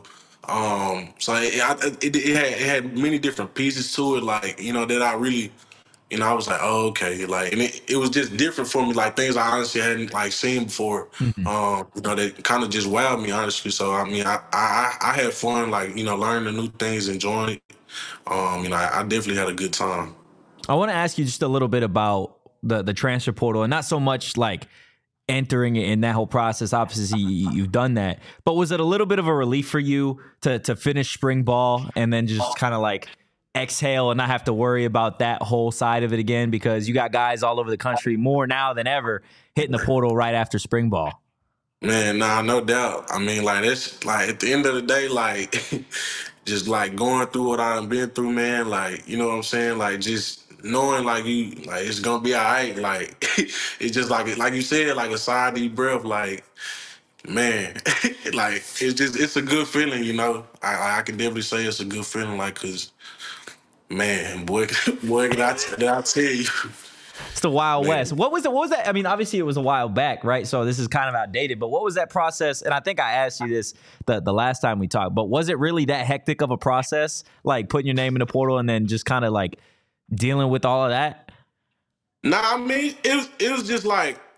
So it had many different pieces to it, that I really, I was like, oh, okay, and it was just different for me, things I honestly hadn't seen before, that kind of just wowed me honestly. So I mean, I had fun, learning the new things, enjoying it. I definitely had a good time. I want to ask you just a little bit about the transfer portal, and not so much entering it in that whole process. Obviously, you've done that, but was it a little bit of a relief for you to finish spring ball and then just kind of exhale and not have to worry about that whole side of it again, because you got guys all over the country more now than ever hitting the portal right after spring ball? Man, nah, no doubt. I mean, that's at the end of the day, just going through what I've been through, man. You know what I'm saying? Just knowing it's gonna be all right. It's just like you said, a sigh of deep breath. Man, it's a good feeling, I can definitely say it's a good feeling, cause man, boy, did I tell you. It's the Wild West. What was that? I mean, obviously it was a while back, right? So this is kind of outdated, but what was that process? And I think I asked you this the last time we talked, but was it really that hectic of a process? Putting your name in the portal and then just kind of dealing with all of that? Nah, I mean, it was just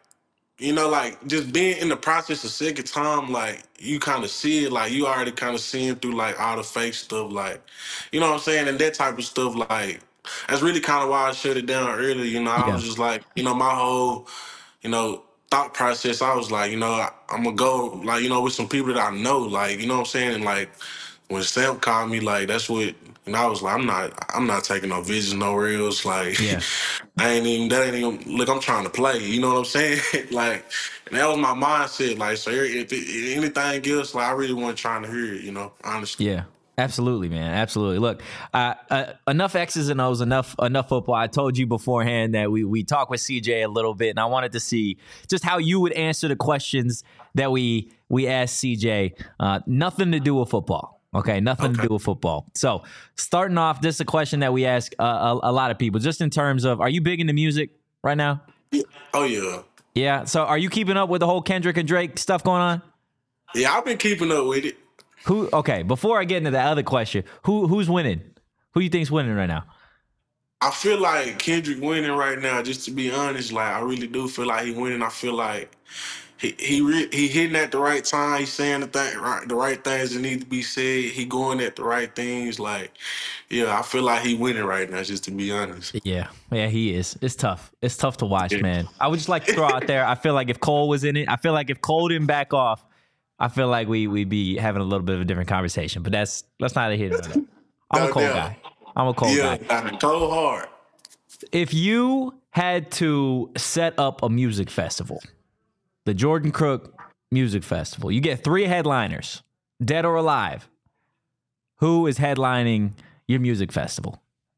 just being in the process a second time, you kind of see it, you already kind of seeing through all the fake stuff, you know what I'm saying? And that type of stuff, that's really kind of why I shut it down early. I was just my whole, thought process, I was I'm gonna go, with some people that I know, you know what I'm saying? And when Sam called me, that's what, I was I'm not taking no visits nowhere else. Yeah. that ain't even, look, I'm trying to play, you know what I'm saying? And that was my mindset. So if anything else, I really wasn't trying to hear it, honestly. Yeah. Absolutely, man. Absolutely. Look, enough X's and O's, enough football. I told you beforehand that we talked with CJ a little bit, and I wanted to see just how you would answer the questions that we asked CJ. Nothing to do with football. Okay, nothing to do with football. So starting off, this is a question that we ask a lot of people, just in terms of, are you big into music right now? Oh, yeah. Yeah. So are you keeping up with the whole Kendrick and Drake stuff going on? Yeah, I've been keeping up with it. Okay, before I get into that other question, who's winning? Who do you think's winning right now? I feel like Kendrick winning right now, just to be honest. I really do feel like he winning. I feel like he hitting at the right time. He's saying the right things that need to be said. He going at the right things. Like, yeah, I feel like he winning right now. Just to be honest. Yeah, he is. It's tough. It's tough to watch, Yeah. man. I would just like to throw out there. I feel like if Cole was in it, I feel like if Cole didn't back off, I feel like we'd be having a little bit of a different conversation. But that's neither here nor there. I'm a Cole guy. I'm a Cole guy. Yeah, Cole hard. If you had to set up a music festival, the Jordan Crook Music Festival, you get 3 headliners, dead or alive. Who is headlining your music festival?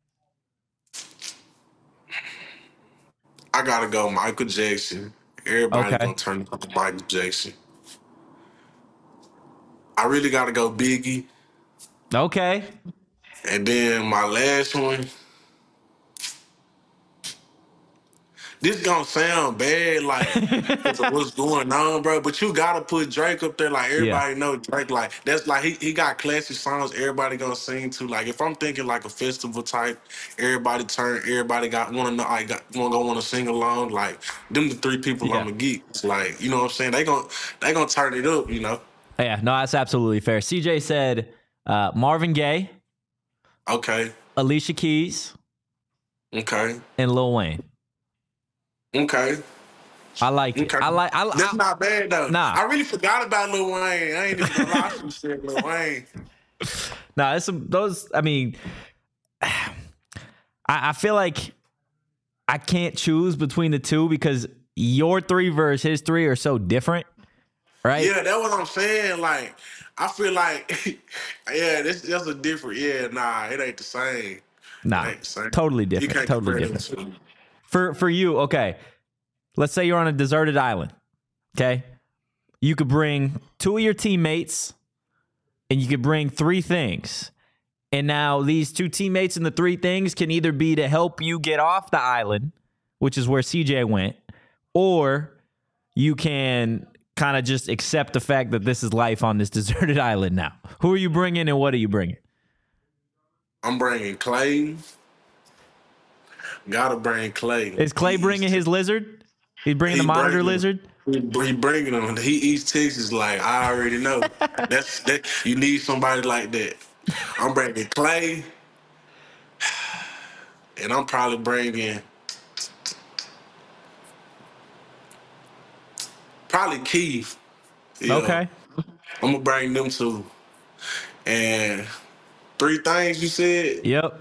I gotta go Michael Jackson. Everybody Okay. gonna turn up to Michael Jackson. I really gotta go Biggie. Okay. And then my last one. This gonna sound bad, like 'cause of what's going on, bro. But you gotta put Drake up there. Like everybody know Drake. Like that's like he got classic songs. Everybody gonna sing to. Like if I'm thinking like a festival type, everybody got wanna sing along. Like them the 3 people Yeah. I'ma get. It's like you know what I'm saying. They gonna turn it up. You know. Yeah, no, that's absolutely fair. CJ said Marvin Gaye, Okay. Alicia Keys, Okay. and Lil Wayne. Okay. I like it. Okay. That's I not bad though. Nah. I really forgot about Lil Wayne. I ain't even gonna lie. You said Lil Wayne. nah, it's those. I mean, I feel like I can't choose between the two because your 3 versus his 3 are so different, right? Yeah, that's what I'm saying. Like, I feel like, yeah, that's a different. Yeah, nah, it ain't the same. Nah, It ain't the same. totally You different. can't Totally compare different. them two. For you, okay. Let's say you're on a deserted island. Okay, you could bring 2 of your teammates, and you could bring 3 things. And now these 2 teammates and the 3 things can either be to help you get off the island, which is where CJ went, or you can kind of just accept the fact that this is life on this deserted island now. Who are you bringing and what are you bringing? I'm bringing Clay. Gotta bring Clay. Is Clay bringing his lizard? He's bringing the He monitor bringing- lizard? He bringing them. He eats Texas like I already know. that you need somebody like that. I'm bringing Clay, and I'm probably bringing Keith. Yeah. Okay. I'm gonna bring them 2. And 3 things you said: Yep.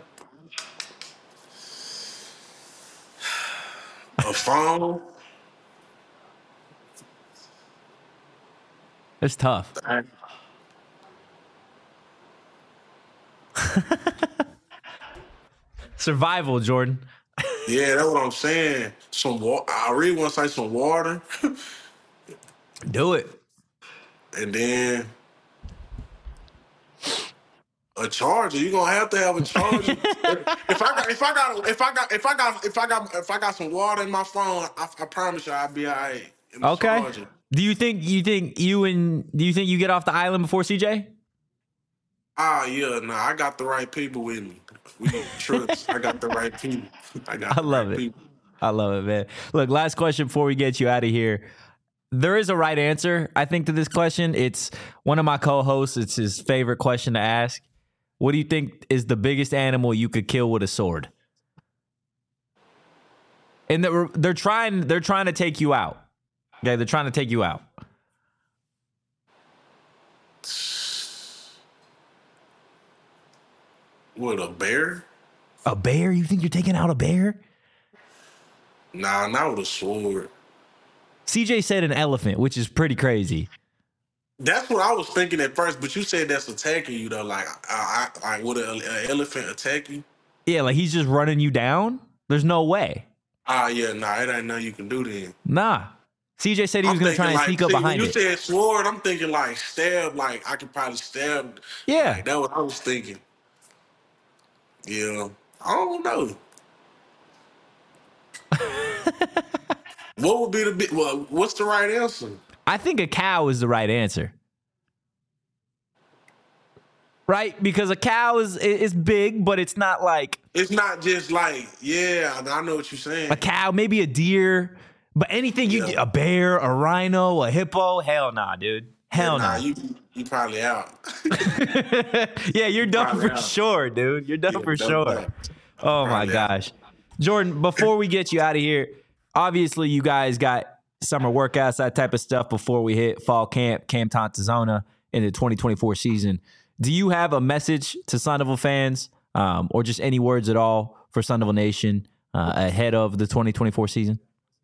a phone. It's tough. Survival, Jordan. Yeah, that's what I'm saying. Some water. I really want to say some water, Do it. and then a charger. You gonna have to have a charger. if I got some water in my phone, I promise you I'll be all right. in the Okay. charger. Do you think you get off the island before CJ? Yeah, nah, I got the right people with me. We trust. I got the right people. I love it. People. I love it, man. Look, last question before we get you out of here. There is a right answer, I think, to this question. It's one of my co-hosts. It's his favorite question to ask. What do you think is the biggest animal you could kill with a sword? And they're trying to take you out. Okay, they're trying to take you out. What, a bear? A bear? You think you're taking out a bear? Nah, not with a sword. CJ said an elephant, which is pretty crazy. That's what I was thinking at first, but you said that's attacking you though. Like, would an elephant attack you? Yeah, like he's just running you down? There's no way. Yeah, nah, it ain't nothing you can do then. Nah. CJ said he was going to try and sneak up behind when it. you said sword, I'm thinking like stab, like I could probably stab. Yeah. Like, that's what I was thinking. Yeah, I don't know. What would be the big? Well, what's the right answer? I think a cow is the right answer. Right? Because a cow is big, but it's not like It's not just like, yeah, I know what you're saying. a cow, maybe a deer, But anything a bear, a rhino, a hippo, hell nah, dude. Hell nah. nah. You probably out. Yeah, you're done Probably for out. sure, dude. You're done for done sure. that. Oh my Probably out. gosh. Jordan, before we get you out of here, obviously you guys got summer workouts, that type of stuff before we hit fall camp, Camp Tontezona in the 2024 season. Do you have a message to Sun Devil fans or just any words at all for Sun Devil Nation ahead of the 2024 season?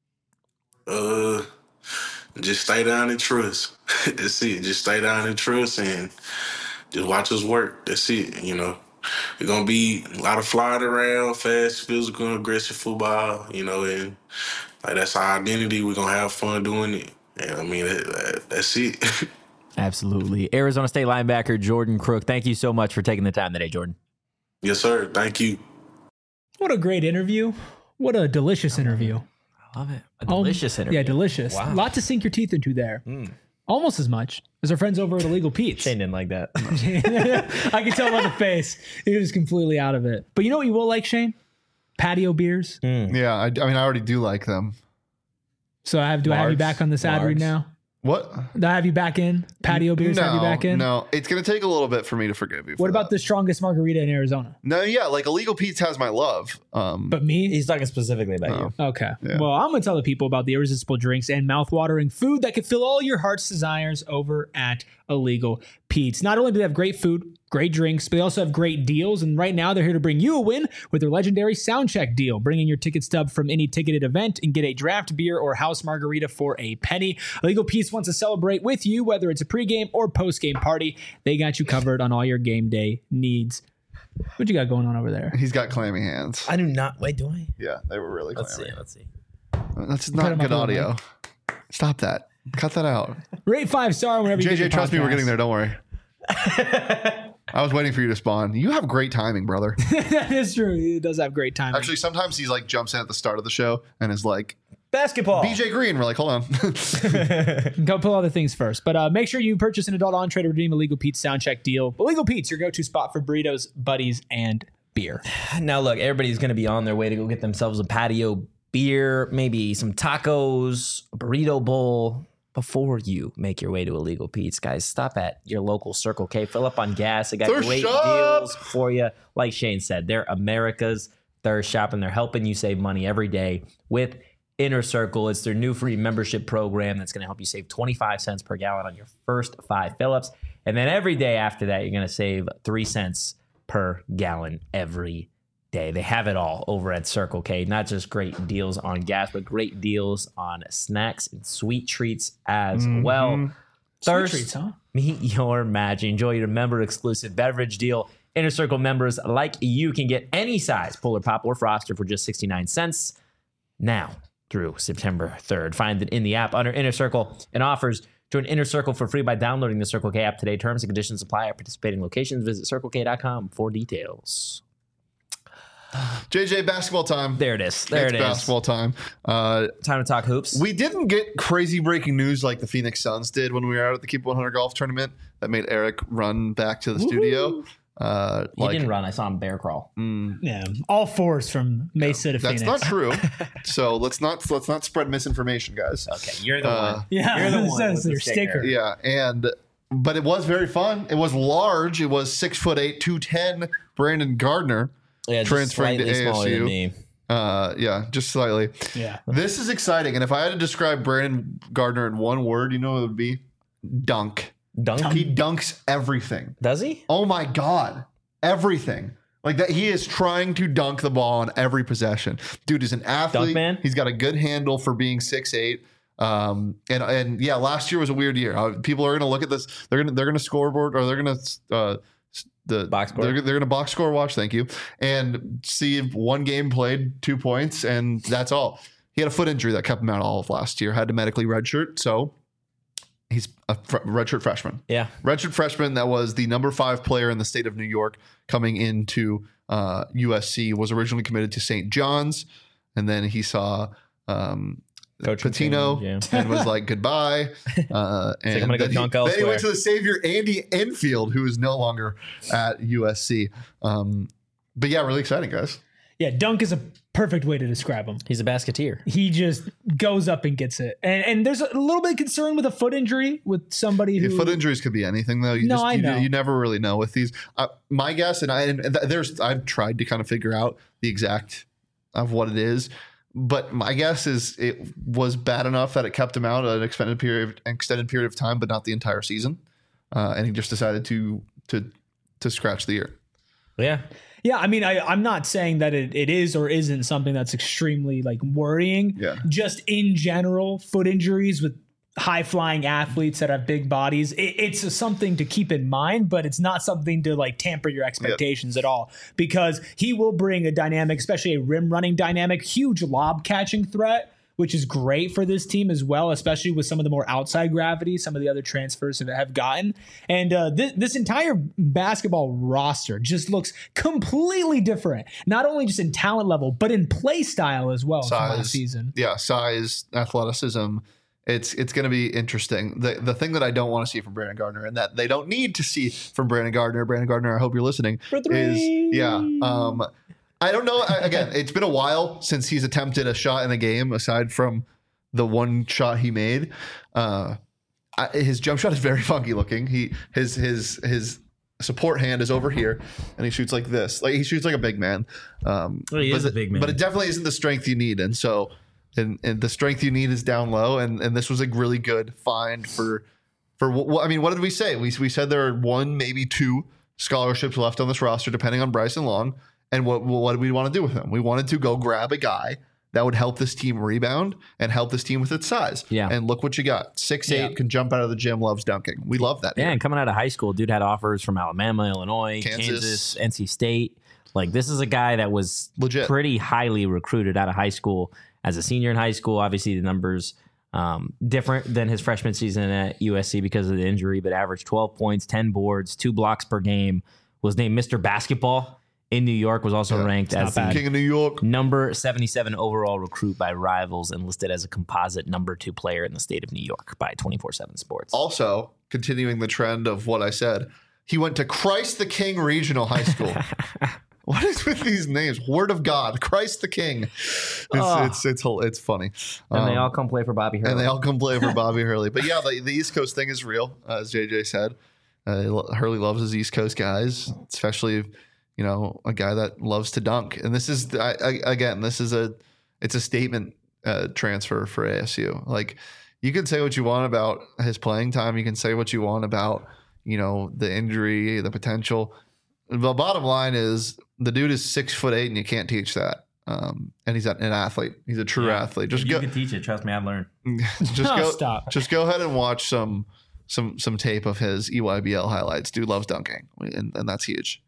Just stay down and trust. That's it. Just stay down and trust and just watch us work. That's it. You know, it's gonna be a lot of flying around, fast, physical, aggressive football. You know, and like that's our identity. We're gonna have fun doing it. And I mean, that's it. Absolutely. Arizona State linebacker Jordan Crook, thank you so much for taking the time today, Jordan. Yes, sir. Thank you. What a great interview. What a delicious interview. I love it. A delicious interview. Yeah, delicious. Wow. A lot to sink your teeth into there. Almost as much as our friends over at Illegal Pete's. Shane didn't like that. I can tell by the face. He was completely out of it. But you know what you will like, Shane? Patio beers. Yeah, I mean, I already do like them. So do I have you back on this ad read now? What? Do I have you back in? Patio beers have you back in? No, it's going to take a little bit for me to forgive you. What about the strongest margarita in Arizona? No, yeah, like Illegal Pete's has my love. But me? He's talking specifically about you. Okay. Yeah. Well, I'm going to tell the people about the irresistible drinks and mouthwatering food that can fill all your heart's desires over at Illegal Pete's. Not only do they have great food, great drinks, but they also have great deals. And right now they're here to bring you a win with their legendary Soundcheck deal. Bring in your ticket stub from any ticketed event and get a draft beer or house margarita for a penny. Illegal Pete's wants to celebrate with you, whether it's a pregame or postgame party. They got you covered on all your game day needs. What you got going on over there? He's got clammy hands. I do not. Wait, do I? Yeah, they were really clammy. Let's see. That's Put not him good up on the audio. Stop that. Cut that out. Rate 5-star whenever you get your JJ, trust me, we're podcast. getting there. Don't worry. I was waiting for you to spawn. You have great timing, brother. That is true. He does have great timing. Actually, sometimes he's like jumps in at the start of the show and is like, Basketball. BJ Green. We're like, hold on. Go pull other things first. But make sure you purchase an adult entree to redeem Illegal Pete's Soundcheck deal. Illegal Pete's, your go-to spot for burritos, buddies, and beer. Now, look, everybody's going to be on their way to go get themselves a patio beer, maybe some tacos, a burrito bowl. Before you make your way to Illegal Pete's, guys, stop at your local Circle K. Fill up on gas. They got Thirst great shop. deals for you. Like Shane said, they're America's thirst shop, and they're helping you save money every day with Inner Circle. It's their new free membership program that's going to help you save 25 cents per gallon on your first 5 fill-ups. And then every day after that, you're going to save 3 cents per gallon every day. They have it all over at Circle K. Not just great deals on gas, but great deals on snacks and sweet treats as well. Thirst, treats, huh? meet your match. Enjoy your member exclusive beverage deal. Inner Circle members like you can get any size Polar Pop or Froster for just 69 cents now through September 3rd. Find it in the app under Inner Circle and offers. Join Inner Circle for free by downloading the Circle K app today. Terms and conditions apply at participating locations. Visit circlek.com for details. JJ, basketball time. There it is. There It's it is. basketball time. Time to talk hoops. We didn't get crazy breaking news like the Phoenix Suns did when we were out at the Keep 100 golf tournament that made Eric run back to the studio. He didn't run. I saw him bear crawl. Yeah. All fours from Mesa to That's Phoenix. not true. So let's not spread misinformation, guys. Okay, you're the one. Yeah, You're the it one says with the their sticker. Yeah, but it was very fun. It was large. It was 6'8", 210. Brandon Gardner. Yeah, just Transferring to slightly smaller than ASU. me. Yeah, just slightly. Yeah. This is exciting. And if I had to describe Brandon Gardner in one word, you know what it would be? Dunk. Dunk? He dunks everything. Does he? Oh my God. Everything. Like that, he is trying to dunk the ball on every possession. Dude is an athlete. Dunk man? He's got a good handle for being 6'8". And yeah, last year was a weird year. People are going to look at this. They're going to scoreboard, or they're going to Box score. They're going to box score watch. Thank you, and see if one game played 2 points, and that's all. He had a foot injury that kept him out all of last year. Had to medically redshirt, so he's a redshirt freshman. Yeah. Redshirt freshman that was the number 5 player in the state of New York coming into USC, was originally committed to St. John's, and then he saw Coach Patino change, and was like, goodbye. And I'm gonna go then dunk then he elsewhere. went to the savior, Andy Enfield, who is no longer at USC. But yeah, really exciting, guys. Yeah, dunk is a Perfect way to describe him. He's a basketeer. He just goes up and gets it. And there's a little bit of concern with a foot injury with somebody who... Foot injuries could be anything, though. I know. You never really know with these. My guess, I've tried to kind of figure out the exact of what it is, but my guess is it was bad enough that it kept him out an extended period of time, but not the entire season. And he just decided to scratch the ear. Yeah. Yeah, I mean, I'm not saying that it is or isn't something that's extremely like worrying. Yeah. Just in general, foot injuries with high flying athletes that have big bodies, it's something to keep in mind, but it's not something to like tamper your expectations at all, because he will bring a dynamic, especially a rim running dynamic, huge lob catching threat, which is great for this team as well, especially with some of the more outside gravity some of the other transfers have gotten. And this entire basketball roster just looks completely different, not only just in talent level, but in play style as well from last season. Yeah, size, athleticism. It's going to be interesting. The thing that I don't want to see from Brandon Gardner, and that they don't need to see from Brandon Gardner, I hope you're listening, I don't know. Again, it's been a while since he's attempted a shot in a game aside from the one shot he made. His jump shot is very funky looking. His support hand is over here, and he shoots like this. Like he shoots like a big man. He is a big man, but it definitely isn't the strength you need. And so, and the strength you need is down low. And this was a really good find for. I mean, what did we say? We said there are 1, maybe 2 scholarships left on this roster, depending on Bryson Long. And what did we want to do with him? We wanted to go grab a guy that would help this team rebound and help this team with its size. Yeah. And look what you got. 6'8", can jump out of the gym, loves dunking. We love that. Yeah, here. and coming out of high school, dude had offers from Alabama, Illinois, Kansas, NC State. Like, this is a guy that was legit, pretty highly recruited out of high school. As a senior in high school, obviously the numbers different than his freshman season at USC because of the injury, but averaged 12 points, 10 boards, 2 blocks per game, was named Mr. Basketball in New York, was also ranked as the King of New York, number 77 overall recruit by Rivals, and listed as a composite number 2 player in the state of New York by 24/7 Sports. Also, continuing the trend of what I said, he went to Christ the King Regional High School. What is with these names? Word of God, Christ the King. It's funny. And they all come play for Bobby Hurley. But yeah, the East Coast thing is real, as JJ said. Hurley loves his East Coast guys, especially a guy that loves to dunk. And this is it's a statement transfer for ASU. Like, you can say what you want about his playing time. You can say what you want about the injury, the potential. The bottom line is the dude is 6'8" and you can't teach that. And he's an athlete. He's a true athlete. You can teach it. Trust me, I'd learn. Just go ahead and watch some tape of his EYBL highlights. Dude loves dunking, and that's huge.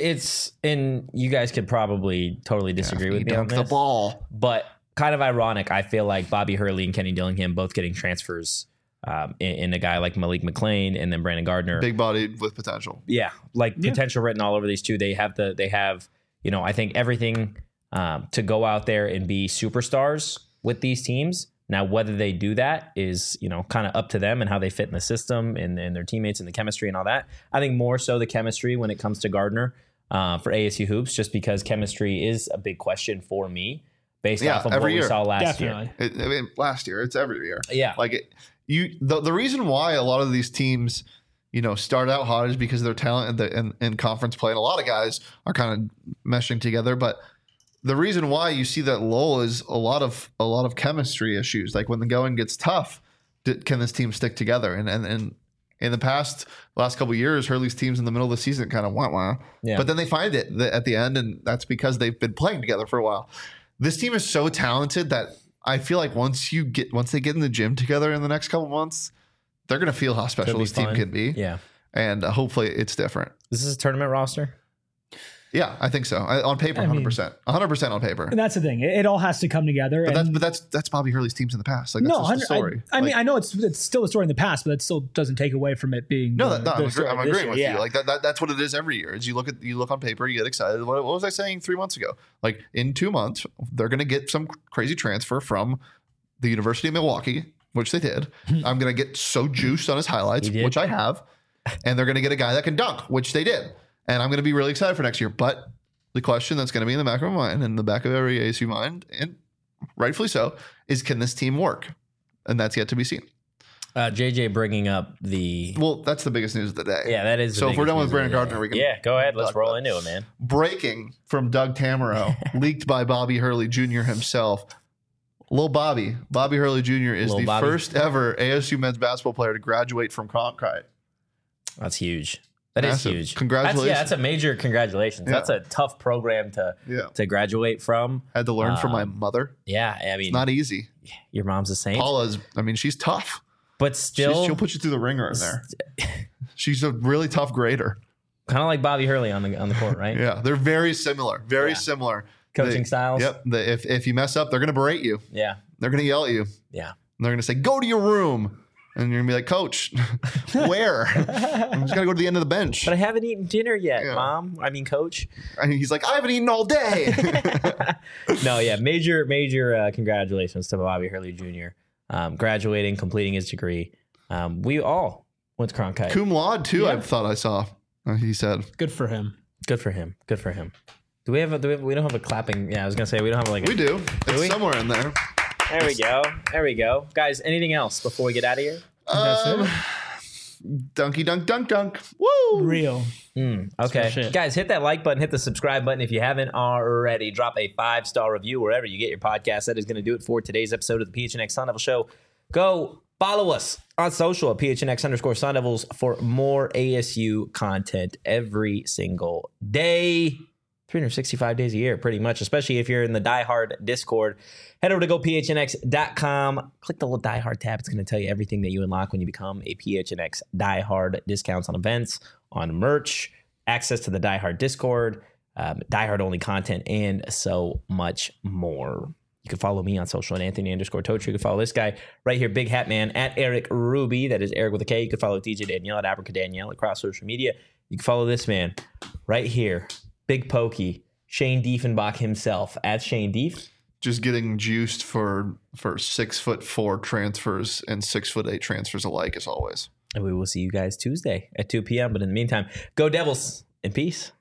And you guys could probably totally disagree with me on this. The ball, but kind of ironic. I feel like Bobby Hurley and Kenny Dillingham both getting transfers in a guy like Malik McClain and then Brandon Gardner, big bodied with potential. Yeah, potential written all over these two. They have I think everything to go out there and be superstars with these teams. Now, whether they do that is, kind of up to them and how they fit in the system and their teammates and the chemistry and all that. I think more so the chemistry when it comes to Gardner for ASU Hoops, just because chemistry is a big question for me based off of what we saw last year. Last year, it's every year. Yeah. The reason why a lot of these teams, start out hot is because their talent in conference play, and a lot of guys are kind of meshing together, but the reason why you see that lull is a lot of chemistry issues. Like, when the going gets tough, can this team stick together? And in the last couple of years, Hurley's teams in the middle of the season kind of wah. Yeah. But then they find it at the end, and that's because they've been playing together for a while. This team is so talented that I feel like once they get in the gym together in the next couple of months, they're going to feel how special this team can be. Yeah. And hopefully it's different. This is a tournament roster. Yeah, I think so. On paper, 100%. 100% on paper. And that's the thing. It all has to come together. But that's Bobby Hurley's teams in the past. Like, that's just the story. I mean, I know it's still a story in the past, but that still doesn't take away from it being. I'm agreeing with you. Like that's what it is every year. Is you look on paper, you get excited. What was I saying 3 months ago? Like, in 2 months, they're going to get some crazy transfer from the University of Milwaukee, which they did. I'm going to get so juiced on his highlights, which I have, and they're going to get a guy that can dunk, which they did. And I'm going to be really excited for next year. But the question that's going to be in the back of my mind and the back of every ASU mind, and rightfully so, is can this team work? And that's yet to be seen. JJ bringing up the. Well, that's the biggest news of the day. Yeah, that is. So if we're done with Brandon Gardner, we can. Yeah, go ahead. Let's roll into it, man. Breaking from Doug Tamaro, leaked by Bobby Hurley Jr. himself. Lil Bobby Hurley Jr. is the first ever ASU men's basketball player to graduate from Cronkite. That's huge. That Massive. is huge. Congratulations. That's a major congratulations. Yeah. That's a tough program to graduate from. Had to learn from my mother. Yeah, I mean, It's not easy. your mom's a saint. Paula's, she's tough. But still, She'll put you through the ringer in there. She's a really tough grader. kind of like Bobby Hurley on the court, right? Yeah, they're very similar. Very similar. Coaching styles. Yep. If you mess up, they're going to berate you. Yeah. They're going to yell at you. Yeah. And they're going to say, go to your room. And you're going to be like, Coach, where? I'm just going to go to the end of the bench. But I haven't eaten dinner yet, Yeah. Mom. I mean, Coach. And he's like, I haven't eaten all day. No, yeah. Major congratulations to Bobby Hurley Jr. Graduating, completing his degree. We all went to Cronkite. Cum laude, too, Yeah. I thought I saw. He said. Good for him. Good for him. Good for him. We don't have a clapping. Yeah, I was going to say we don't have like a. We do. It's we? somewhere in there. There we go. There we go. Guys, anything else before we get out of here? That's it. Dunky dunk dunk dunk. Woo! Real. Okay. shit. Guys, hit that like button, hit the subscribe button if you haven't already. Drop a 5-star review wherever you get your podcast. That is going to do it for today's episode of the PHNX Sun Devil Show. Go follow us on social at PHNX_Sun Devils for more ASU content every single day. 365 days a year, pretty much, especially if you're in the Die Hard Discord. Head over to gophnx.com. Click the little Die Hard tab. It's going to tell you everything that you unlock when you become a PHNX Die Hard. Discounts on events, on merch, access to the Die Hard Discord, Die Hard only content, and so much more. You can follow me on social at Anthony_Totri. You can follow this guy right here, Big Hat Man, at Eric Ruby. That is Eric with a K. You can follow DJ Danielle at Abrica Danielle across social media. You can follow this man right here, Big Pokey, Shane Diefenbach himself at Shane Dief. Just getting juiced for 6'4" transfers and 6'8" transfers alike, as always. And we will see you guys Tuesday at 2 p.m. But in the meantime, go Devils in peace.